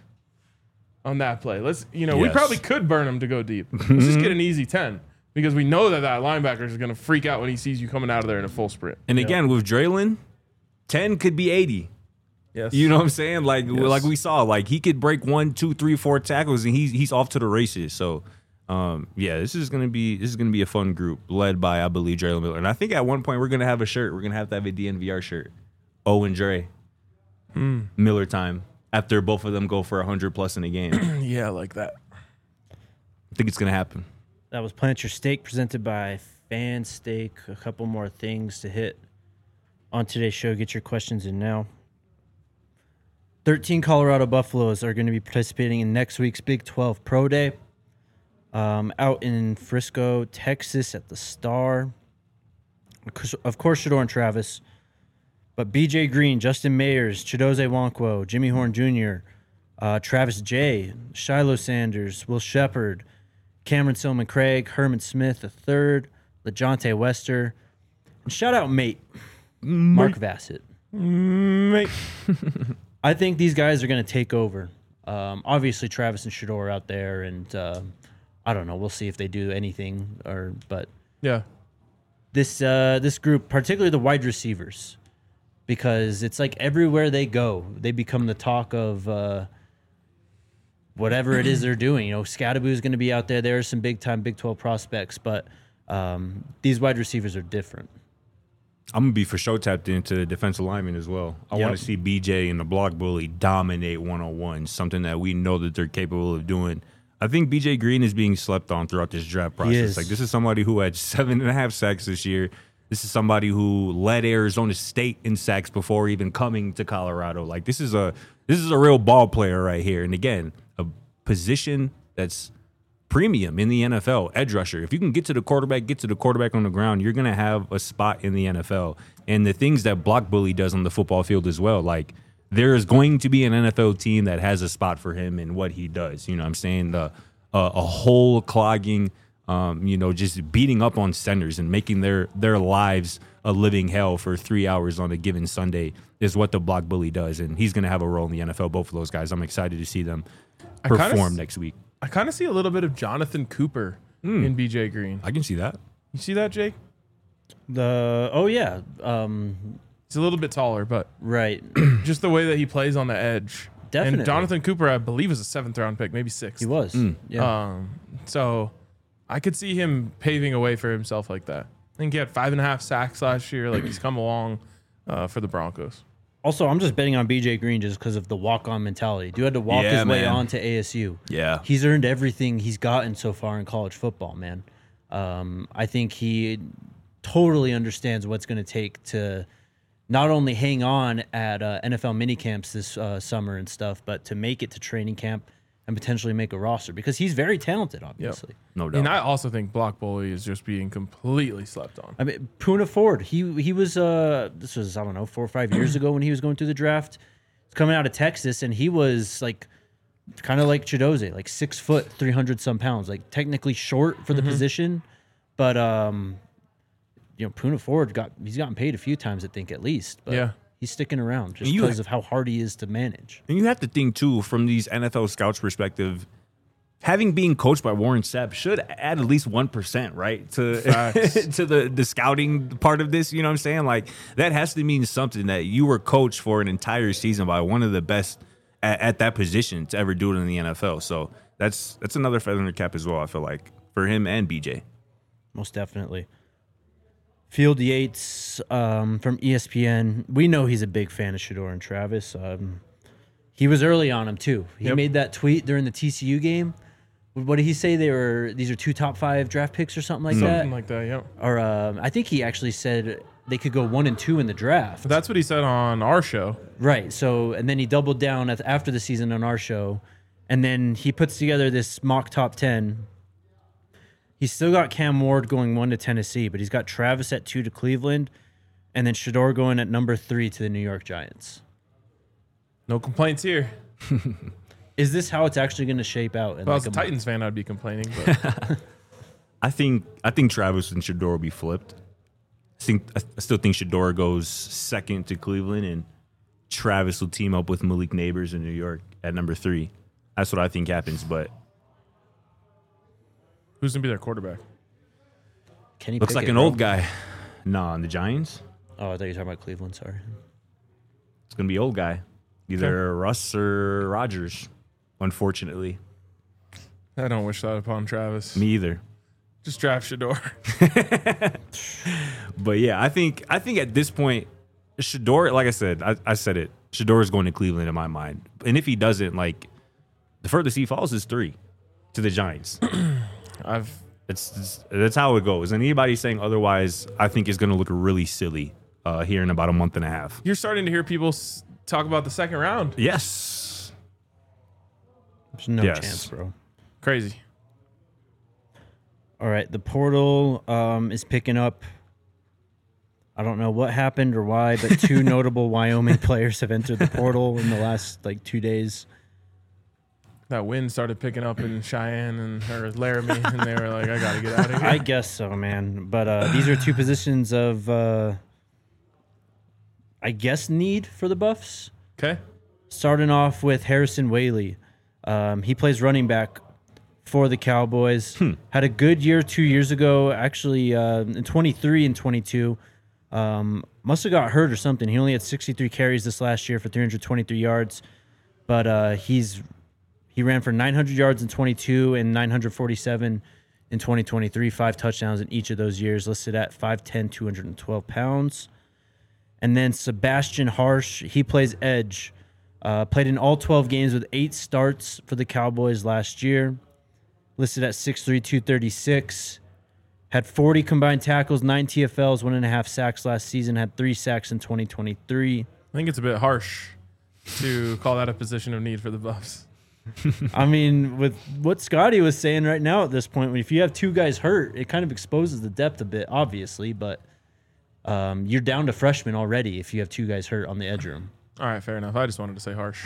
on that play. We probably could burn him to go deep. Let's just get an easy 10 because we know that linebacker is going to freak out when he sees you coming out of there in a full sprint. And again, with Draylon, 10 could be 80. Yes. You know what I'm saying? Like we saw, like he could break 1, 2, 3, 4 tackles and he's off to the races. So this is gonna be a fun group led by, I believe, Draylon Miller. And I think at one point we're gonna have a shirt. We're gonna have to have a DNVR shirt. Owen Dre. Miller time. After both of them go for 100 plus in a game. Yeah, like that. I think it's gonna happen. That was Plant Your Steak presented by Fan Steak. A couple more things to hit on today's show. Get your questions in now. 13 Colorado Buffaloes are going to be participating in next week's Big 12 Pro Day out in Frisco, Texas at the Star. Of course, Shedeur and Travis, but BJ Green, Justin Mayers, Chidozie Nwankwo, Jimmy Horn Jr., Travis J., Shiloh Sanders, Will Shepard, Cameron Silman Craig, Herman Smith III, LeJontay Wester, and shout out mate, Mark Vassett. Mate. I think these guys are going to take over. Obviously, Travis and Shedeur are out there, and I don't know. We'll see if they do anything. But yeah, this group, particularly the wide receivers, because it's like everywhere they go, they become the talk of whatever it is they're doing. Scadaboo is going to be out there. There are some big-time Big 12 prospects, but these wide receivers are different. I'm going to be for sure tapped into the defensive lineman as well. I want to see BJ and the block bully dominate one-on-one, something that we know that they're capable of doing. I think BJ Green is being slept on throughout this draft process. is. Like, this is somebody who had 7.5 sacks this year. This is somebody who led Arizona State in sacks before even coming to Colorado. Like, this is a real ball player right here. And again, a position that's premium in the NFL, edge rusher. If you can get to the quarterback on the ground, you're going to have a spot in the NFL. And the things that Block Bully does on the football field as well, like, there is going to be an NFL team that has a spot for him and what he does. You know what I'm saying? A hole clogging, just beating up on centers and making their lives a living hell for 3 hours on a given Sunday is what the Block Bully does. And he's going to have a role in the NFL, both of those guys. I'm excited to see them perform next week. I kind of see a little bit of Jonathan Cooper in BJ Green. I can see that. You see that, Jake? He's a little bit taller, but Right. just the way that he plays on the edge. Definitely. And Jonathan Cooper, I believe, is a 7th round pick, maybe 6th. He was. Yeah. So I could see him paving a way for himself like that. I think he had 5.5 sacks last year. Like, he's come along for the Broncos. Also, I'm just betting on BJ Green just because of the walk-on mentality. Dude had to walk his way on to ASU. Yeah. He's earned everything he's gotten so far in college football, man. I think he totally understands what's going to take to not only hang on at NFL minicamps this summer and stuff, but to make it to training camp and potentially make a roster because he's very talented, obviously. No doubt. And I also think Block Bully is just being completely slept on. I mean, Puna Ford, he was, this was, I don't know, 4 or 5 years ago when he was going through the draft. He's coming out of Texas, and he was like, kind of like Chidoze, like 6 foot, 300 some pounds, like technically short for the position. But, Puna Ford he's gotten paid a few times, I think, at least. But Yeah. he's sticking around just because of how hard he is to manage. And you have to think, too, from these NFL scouts' perspective, having been coached by Warren Sapp should add at least 1%, right? To to the scouting part of this, you know what I'm saying? Like, that has to mean something that you were coached for an entire season by one of the best at that position to ever do it in the NFL. So that's another feather in the cap as well, I feel like, for him and BJ. Most definitely. Field Yates from ESPN. We know he's a big fan of Shedeur and Travis. He was early on him too. He made that tweet during the TCU game. What did he say? These are 2 top 5 draft picks or something like that. Something like that, yeah. Or I think he actually said they could go 1 and 2 in the draft. That's what he said on our show. Right. So and then he doubled down after the season on our show, and then he puts together this mock top 10. He's still got Cam Ward going 1 to Tennessee, but he's got Travis at 2 to Cleveland, and then Shedeur going at number 3 to the New York Giants. No complaints here. Is this how it's actually going to shape out? If I was a Titans fan, I'd be complaining. But I think Travis and Shedeur will be flipped. I still think Shedeur goes 2nd to Cleveland, and Travis will team up with Malik Neighbors in New York at number 3. That's what I think happens, but who's going to be their quarterback? Kenny looks like Pickett, an bro. old guy. Nah, on the Giants, Oh, I thought you were talking about Cleveland. Sorry. it's going to be old guy. Either Russ or Rodgers, unfortunately. I don't wish that upon Travis. Me either. Just draft Shedeur. But yeah, I think at this point, Shedeur, like I said, I said it. Shedeur is going to Cleveland in my mind. And if he doesn't, like, the furthest he falls is 3 to the Giants. That's how it goes. And anybody saying otherwise, I think is going to look really silly here in about a month and a half. You're starting to hear people talk about the 2nd round. Yes. There's no Yes. chance, bro. Crazy. All right, the portal is picking up. I don't know what happened or why, but 2 notable Wyoming players have entered the portal in the last 2 days. That wind started picking up in Cheyenne or Laramie, and they were like, I got to get out of here. I guess so, man. But these are 2 positions of, I guess, need for the Buffs. Okay. Starting off with Harrison Whaley. He plays running back for the Cowboys. Had a good year 2 years ago, actually, in 23 and 22. Must have got hurt or something. He only had 63 carries this last year for 323 yards. But he ran for 900 yards in 22 and 947 in 2023. 5 touchdowns in each of those years, listed at 5'10", 212 pounds. And then Sebastian Harsh, he plays edge. Played in all 12 games with 8 starts for the Cowboys last year. listed at 6'3", 236. Had 40 combined tackles, 9 TFLs, 1.5 sacks last season. Had 3 sacks in 2023. I think it's a bit harsh to call that a position of need for the Buffs. I mean, with what Scotty was saying right now at this point, if you have 2 guys hurt, it kind of exposes the depth a bit, obviously. But you're down to freshmen already if you have 2 guys hurt on the edge room. All right, fair enough. I just wanted to say harsh.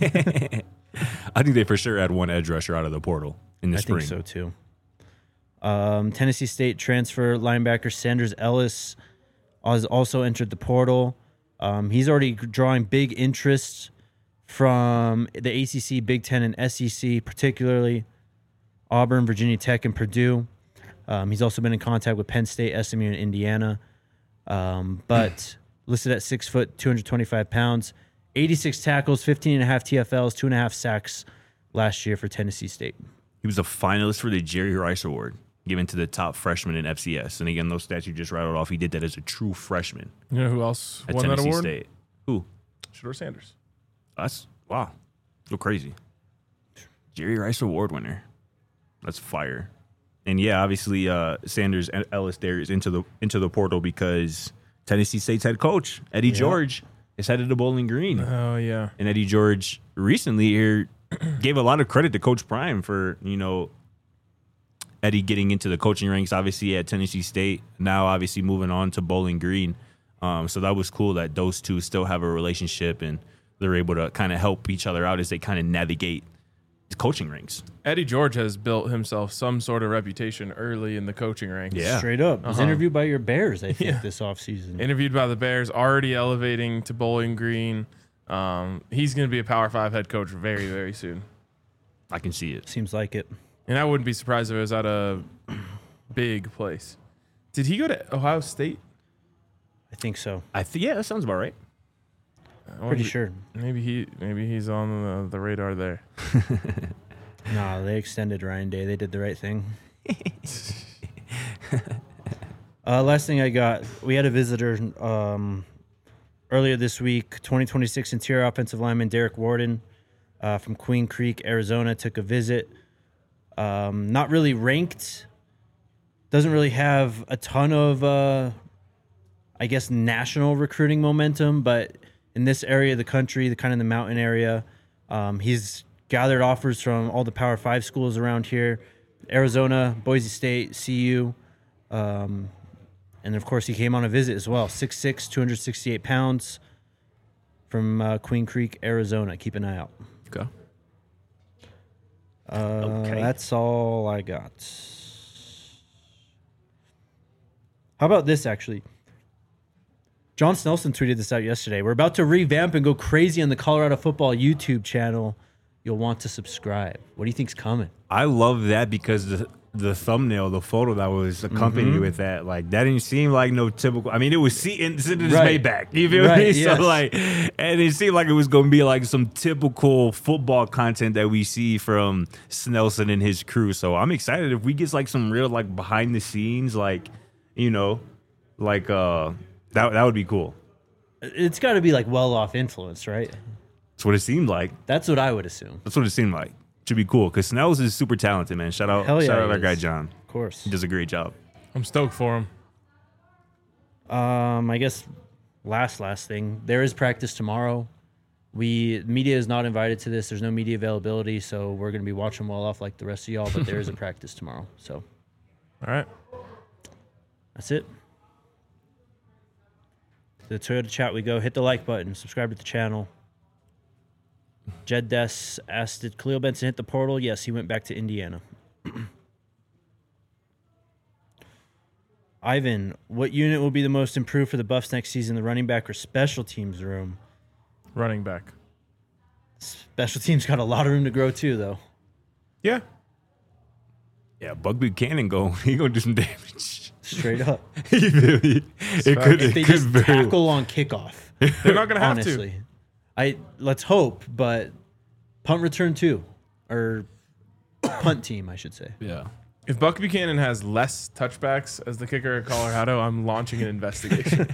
I think they for sure had one edge rusher out of the portal in the spring. I think so too. Tennessee State transfer linebacker Sanders Ellis has also entered the portal. He's already drawing big interest from the ACC, Big Ten, and SEC, particularly Auburn, Virginia Tech, and Purdue. He's also been in contact with Penn State, SMU, and Indiana. But listed at 6 foot, 225 pounds, 86 tackles, 15.5 TFLs, 2.5 sacks last year for Tennessee State. He was a finalist for the Jerry Rice Award, given to the top freshman in FCS. And again, those stats you just rattled off, he did that as a true freshman You know who else at won Tennessee that award? State. Who? Shedeur Sanders. Us? Wow. So crazy. Jerry Rice Award winner. That's fire. And yeah, obviously Sanders Ellis there is into the portal because Tennessee State's head coach, Eddie George, is headed to Bowling Green. Oh, yeah. And Eddie George recently here gave a lot of credit to Coach Prime for, Eddie getting into the coaching ranks, obviously at Tennessee State, now obviously moving on to Bowling Green. So that was cool that those two still have a relationship and they're able to kind of help each other out as they kind of navigate the coaching ranks. Eddie George has built himself some sort of reputation early in the coaching ranks. Yeah. Straight up. Was interviewed by your Bears, I think, this offseason. Interviewed by the Bears, already elevating to Bowling Green. He's going to be a Power 5 head coach very, very soon. I can see it. Seems like it. And I wouldn't be surprised if it was at a big place. Did he go to Ohio State? I think so. Yeah, that sounds about right. Pretty sure. Maybe he's on the radar there. No, they extended Ryan Day. They did the right thing. Last thing I got, we had a visitor earlier this week. 2026 interior offensive lineman Derek Warden from Queen Creek, Arizona, took a visit. Not really ranked. Doesn't really have a ton of, national recruiting momentum, but in this area of the country, the kind of the mountain area, he's gathered offers from all the Power 5 schools around here, Arizona, Boise State, CU, and of course he came on a visit as well. 6'6", 268 pounds from Queen Creek, Arizona. Keep an eye out. Okay. That's all I got. How about this, actually? John Snelson tweeted this out yesterday. We're about to revamp and go crazy on the Colorado Football YouTube channel. You'll want to subscribe. What do you think's coming? I love that because the thumbnail, the photo that was accompanied with that, like that didn't seem like no typical. I mean, it was sitting in his Maybach. You feel me? Yes. So like, and it seemed like it was going to be like some typical football content that we see from Snelson and his crew. So I'm excited if we get like some real like behind the scenes, like that would be cool. It's got to be like well-off influence, right? That's what it seemed like. That's what I would assume. That's what it seemed like. Should be cool because Snells is super talented, man. Shout out Hell yeah, our he guy is. John. Of course. He does a great job. I'm stoked for him. I guess last thing. There is practice tomorrow. Media is not invited to this. There's no media availability, so we're going to be watching well off like the rest of y'all, but there is a practice tomorrow. So All right. that's it. To the Toyota chat we go. Hit the like button. Subscribe to the channel. Jed Des asked, did Khalil Benson hit the portal? Yes, he went back to Indiana. Ivan, what unit will be the most improved for the Buffs next season, the running back or special teams room? Running back. Special teams got a lot of room to grow too, though. Yeah. Yeah, Buck Buchanan he gonna do some damage. Straight up. You feel me? If they just tackle on kickoff, They're not going to have honestly. Let's hope, but punt return too. Or punt team, I should say. Yeah. If Buck Buchanan has less touchbacks as the kicker at Colorado, I'm launching an investigation.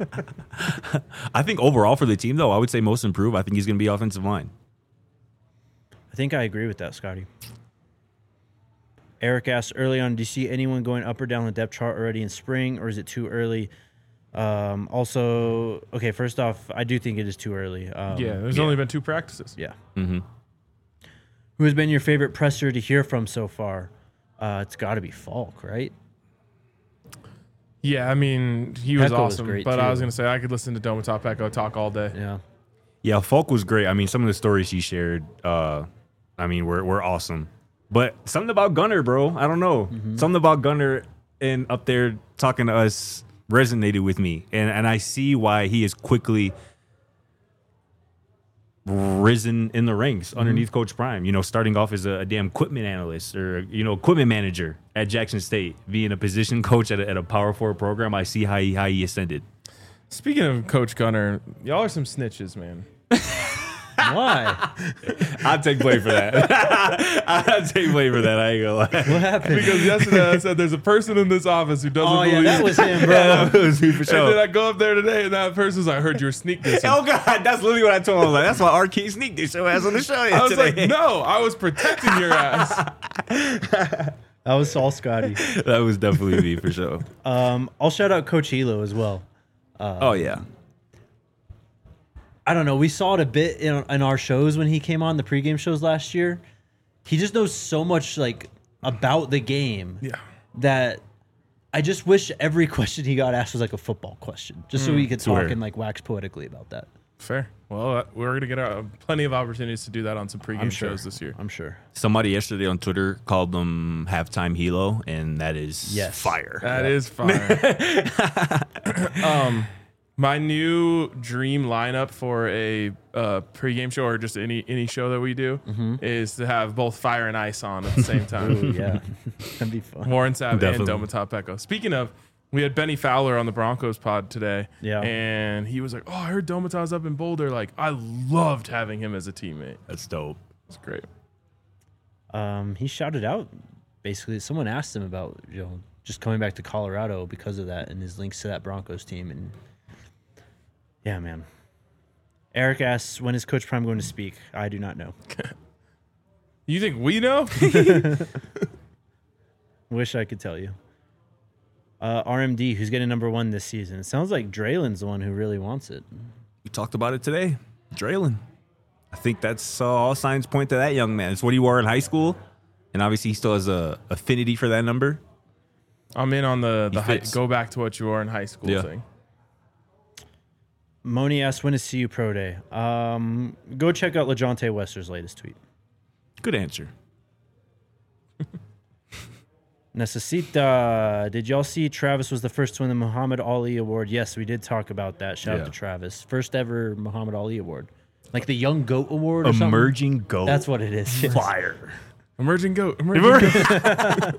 I think overall for the team, though, I would say most improved. I think he's going to be offensive line. I think I agree with that, Scotty. Eric asks early on, do you see anyone going up or down the depth chart already in spring, or is it too early? Also, okay, first off, I do think it is too early. There's only been 2 practices. Yeah. Mm-hmm. Who has been your favorite presser to hear from so far? It's got to be Falk, right? Yeah, I mean, he was Peko was awesome. great, But too. I was going to say, I could listen to Domata Peko talk all day. Yeah. Yeah, Falk was great. I mean, some of the stories he shared, were awesome. But something about Gunner, bro. I don't know. Something about Gunner and up there talking to us resonated with me. And I see why he is quickly risen in the ranks underneath Coach Prime. You know, starting off as a damn equipment analyst or, equipment manager at Jackson State, being a position coach at a Power 4 program. I see how he ascended. Speaking of Coach Gunner, y'all are some snitches, man. Why? I'll take blame for that. I'll take blame for that. I ain't gonna lie. What happened? Because yesterday I said there's a person in this office who doesn't Oh, yeah, believe. that was him, bro. That was me for And sure. then I go up there today, and that person's like, I heard you were sneak dissing. Oh God, that's literally what I told him. I was like, that's why R. Key sneaked this show ass on the show I was yesterday. like, no, I was protecting your ass. That was all Scotty. That was definitely me for sure. I'll shout out Coach Hilo as well. Oh yeah, I don't know. We saw it a bit in our shows when he came on the pregame shows last year. He just knows so much about the game that I just wish every question he got asked was like a football question, just so he could talk Swear. and wax poetically about that. Fair. Well, we're going to get plenty of opportunities to do that on some pregame I'm sure. shows this year. I'm sure. somebody yesterday on Twitter called them halftime Hilo, and that is Yes. fire. That is fire. My new dream lineup for a pregame show or just any show that we do is to have both Fire and Ice on at the same time. Ooh, yeah, that'd be fun. Warren Sapp and Definitely. Domata Peko. Speaking of, we had Benny Fowler on the Broncos pod today. Yeah. And he was like, oh, I heard Domata's up in Boulder. Like, I loved having him as a teammate. That's dope. It's great. He shouted out basically. Someone asked him about just coming back to Colorado because of that and his links to that Broncos team. And yeah, man. Eric asks, when is Coach Prime going to speak? I do not know. You think we know? Wish I could tell you. RMD, who's getting number 1 this season? It sounds like Draylen's the one who really wants it. We talked about it today. Draylen. I think that's all signs point to that young man. It's what he wore in high school, and obviously he still has a affinity for that number. I'm in on the fits. go back to what you were in high school Yeah. thing. Moni asks, when is CU Pro Day? Go check out LeJontay Wester's latest tweet. Good answer. Necesita, did y'all see Travis was the first to win the Muhammad Ali Award? Yes, we did talk about that. Shout out Yeah. to Travis. First ever Muhammad Ali Award. Like the Young GOAT Award or something? Emerging goat. That's what it is. yes. fire. Emerging goat. Emerging goat.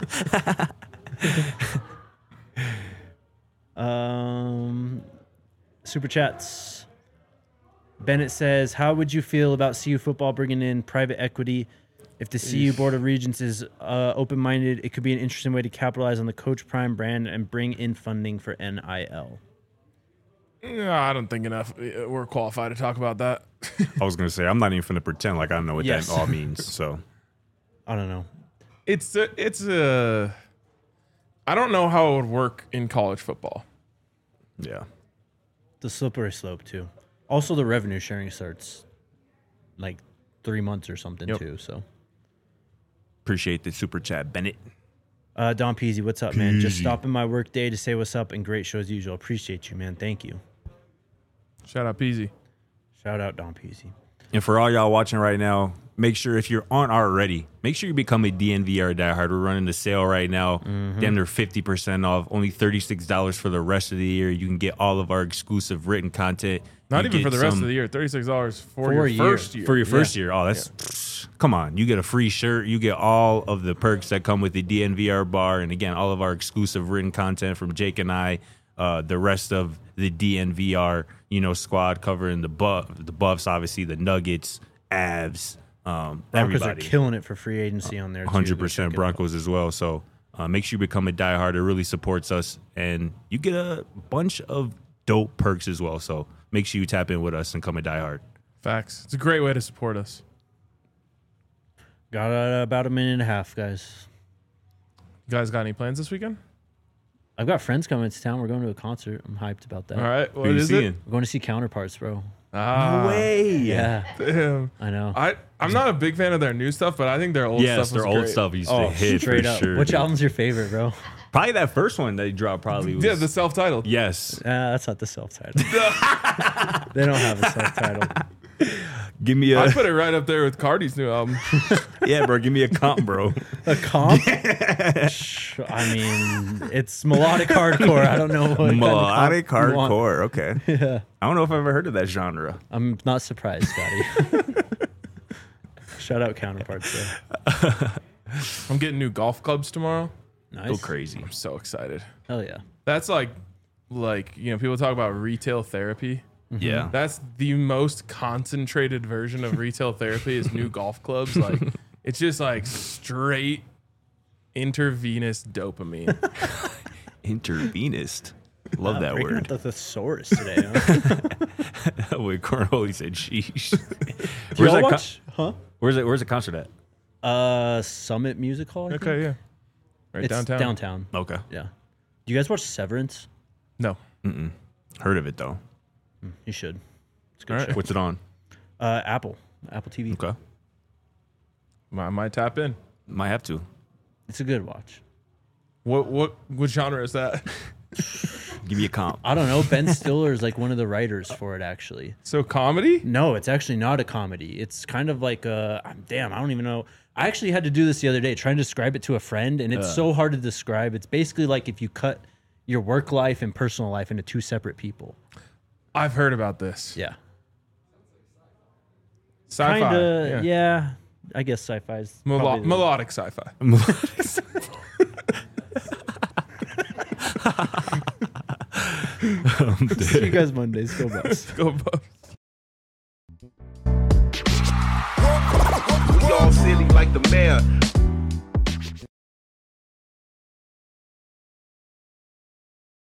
Super chats. Bennett says, how would you feel about CU football bringing in private equity? If the CU Board of Regents is open-minded, it could be an interesting way to capitalize on the Coach Prime brand and bring in funding for NIL. No, I don't think enough. We're qualified to talk about that. I was gonna say I'm not even finna pretend like I know what Yes. that all means. So I don't know. It's a. I don't know how it would work in college football. yeah, The slippery slope, too. Also, the revenue sharing starts like 3 months or something, Yep. too. So, appreciate the super chat, Bennett. Don Peasy, what's up, man? Just Peasy. stopping my work day to say what's up and great show as usual. Appreciate you, man. Thank you. Shout out Peasy. Shout out Don Peasy. And for all y'all watching right now, make sure if you aren't already, make sure you become a DNVR diehard. We're running the sale right now. Damn near 50% off. Only $36 for the rest of the year. You can get all of our exclusive written content. Not You even get for the rest some- of the year. $36 for For your a year. first year. For your first year. Oh, that's come on. You get a free shirt. You get all of the perks that come with the DNVR bar. And again, all of our exclusive written content from Jake and I, the rest of the DNVR, squad covering the Buffs, obviously the Nuggets, Avs, Broncos everybody. are killing it for free agency on there. too. Go 100% check it out. Broncos as well. So make sure you become a diehard. It really supports us. And you get a bunch of dope perks as well. So make sure you tap in with us and become a diehard. Facts. It's a great way to support us. Got about a minute and a half, guys. You guys got any plans this weekend? I've got friends coming to town. We're going to a concert. I'm hyped about that. All right. Who What you is seeing? it? We're going to see Counterparts, bro. Ah, Way. Yeah, damn. I know. I'm not a big fan of their new stuff, but I think their old stuff Yes, was their old great. stuff used Oh, to hit straight for up. sure. Which dude. album's your favorite, bro? Probably that first one that he dropped. Probably was. Yeah, the self-titled. Yes. That's not the self-titled. They don't have a self-titled. Give me I a put it right up there with Cardi's new album. yeah, bro. Give me a comp, bro. A comp? I mean, it's melodic hardcore. I don't know what Melodic kind of comp you want. hardcore. Okay. Yeah, I don't know if I've ever heard of that genre. I'm not surprised, Scotty. Shout out Counterparts, though. I'm getting new golf clubs tomorrow. Nice. Go crazy. I'm so excited. Hell yeah. That's like people talk about retail therapy. Yeah. That's the most concentrated version of retail therapy is new golf clubs. Like it's just like straight intravenous dopamine. Intravenous. Love that Breaking word. out the thesaurus today. Huh? Wait, Cornhole said sheesh. Do y'all that watch? Where's the concert at? Summit Music Hall. I think? Okay, yeah. Right It's downtown. downtown. Okay. Yeah. Do you guys watch Severance? No. Heard of it though. You should. It's a good All right. show. What's it on? Apple TV. Okay. I might tap in. Might have to. Uh, It's a good watch. What genre is that? Give me a comp. I don't know. Ben Stiller is like one of the writers for it, actually. So comedy? No, it's actually not a comedy. It's kind of like damn, I don't even know. I actually had to do this the other day, trying to describe it to a friend, and it's so hard to describe. It's basically like if you cut your work life and personal life into two separate people. I've heard about this. Yeah. Sci-fi. Kinda, yeah. I guess sci-fi is probably the- Melodic sci-fi. See you guys Mondays. Go Bucks. Go Bucks. We all silly like the mayor.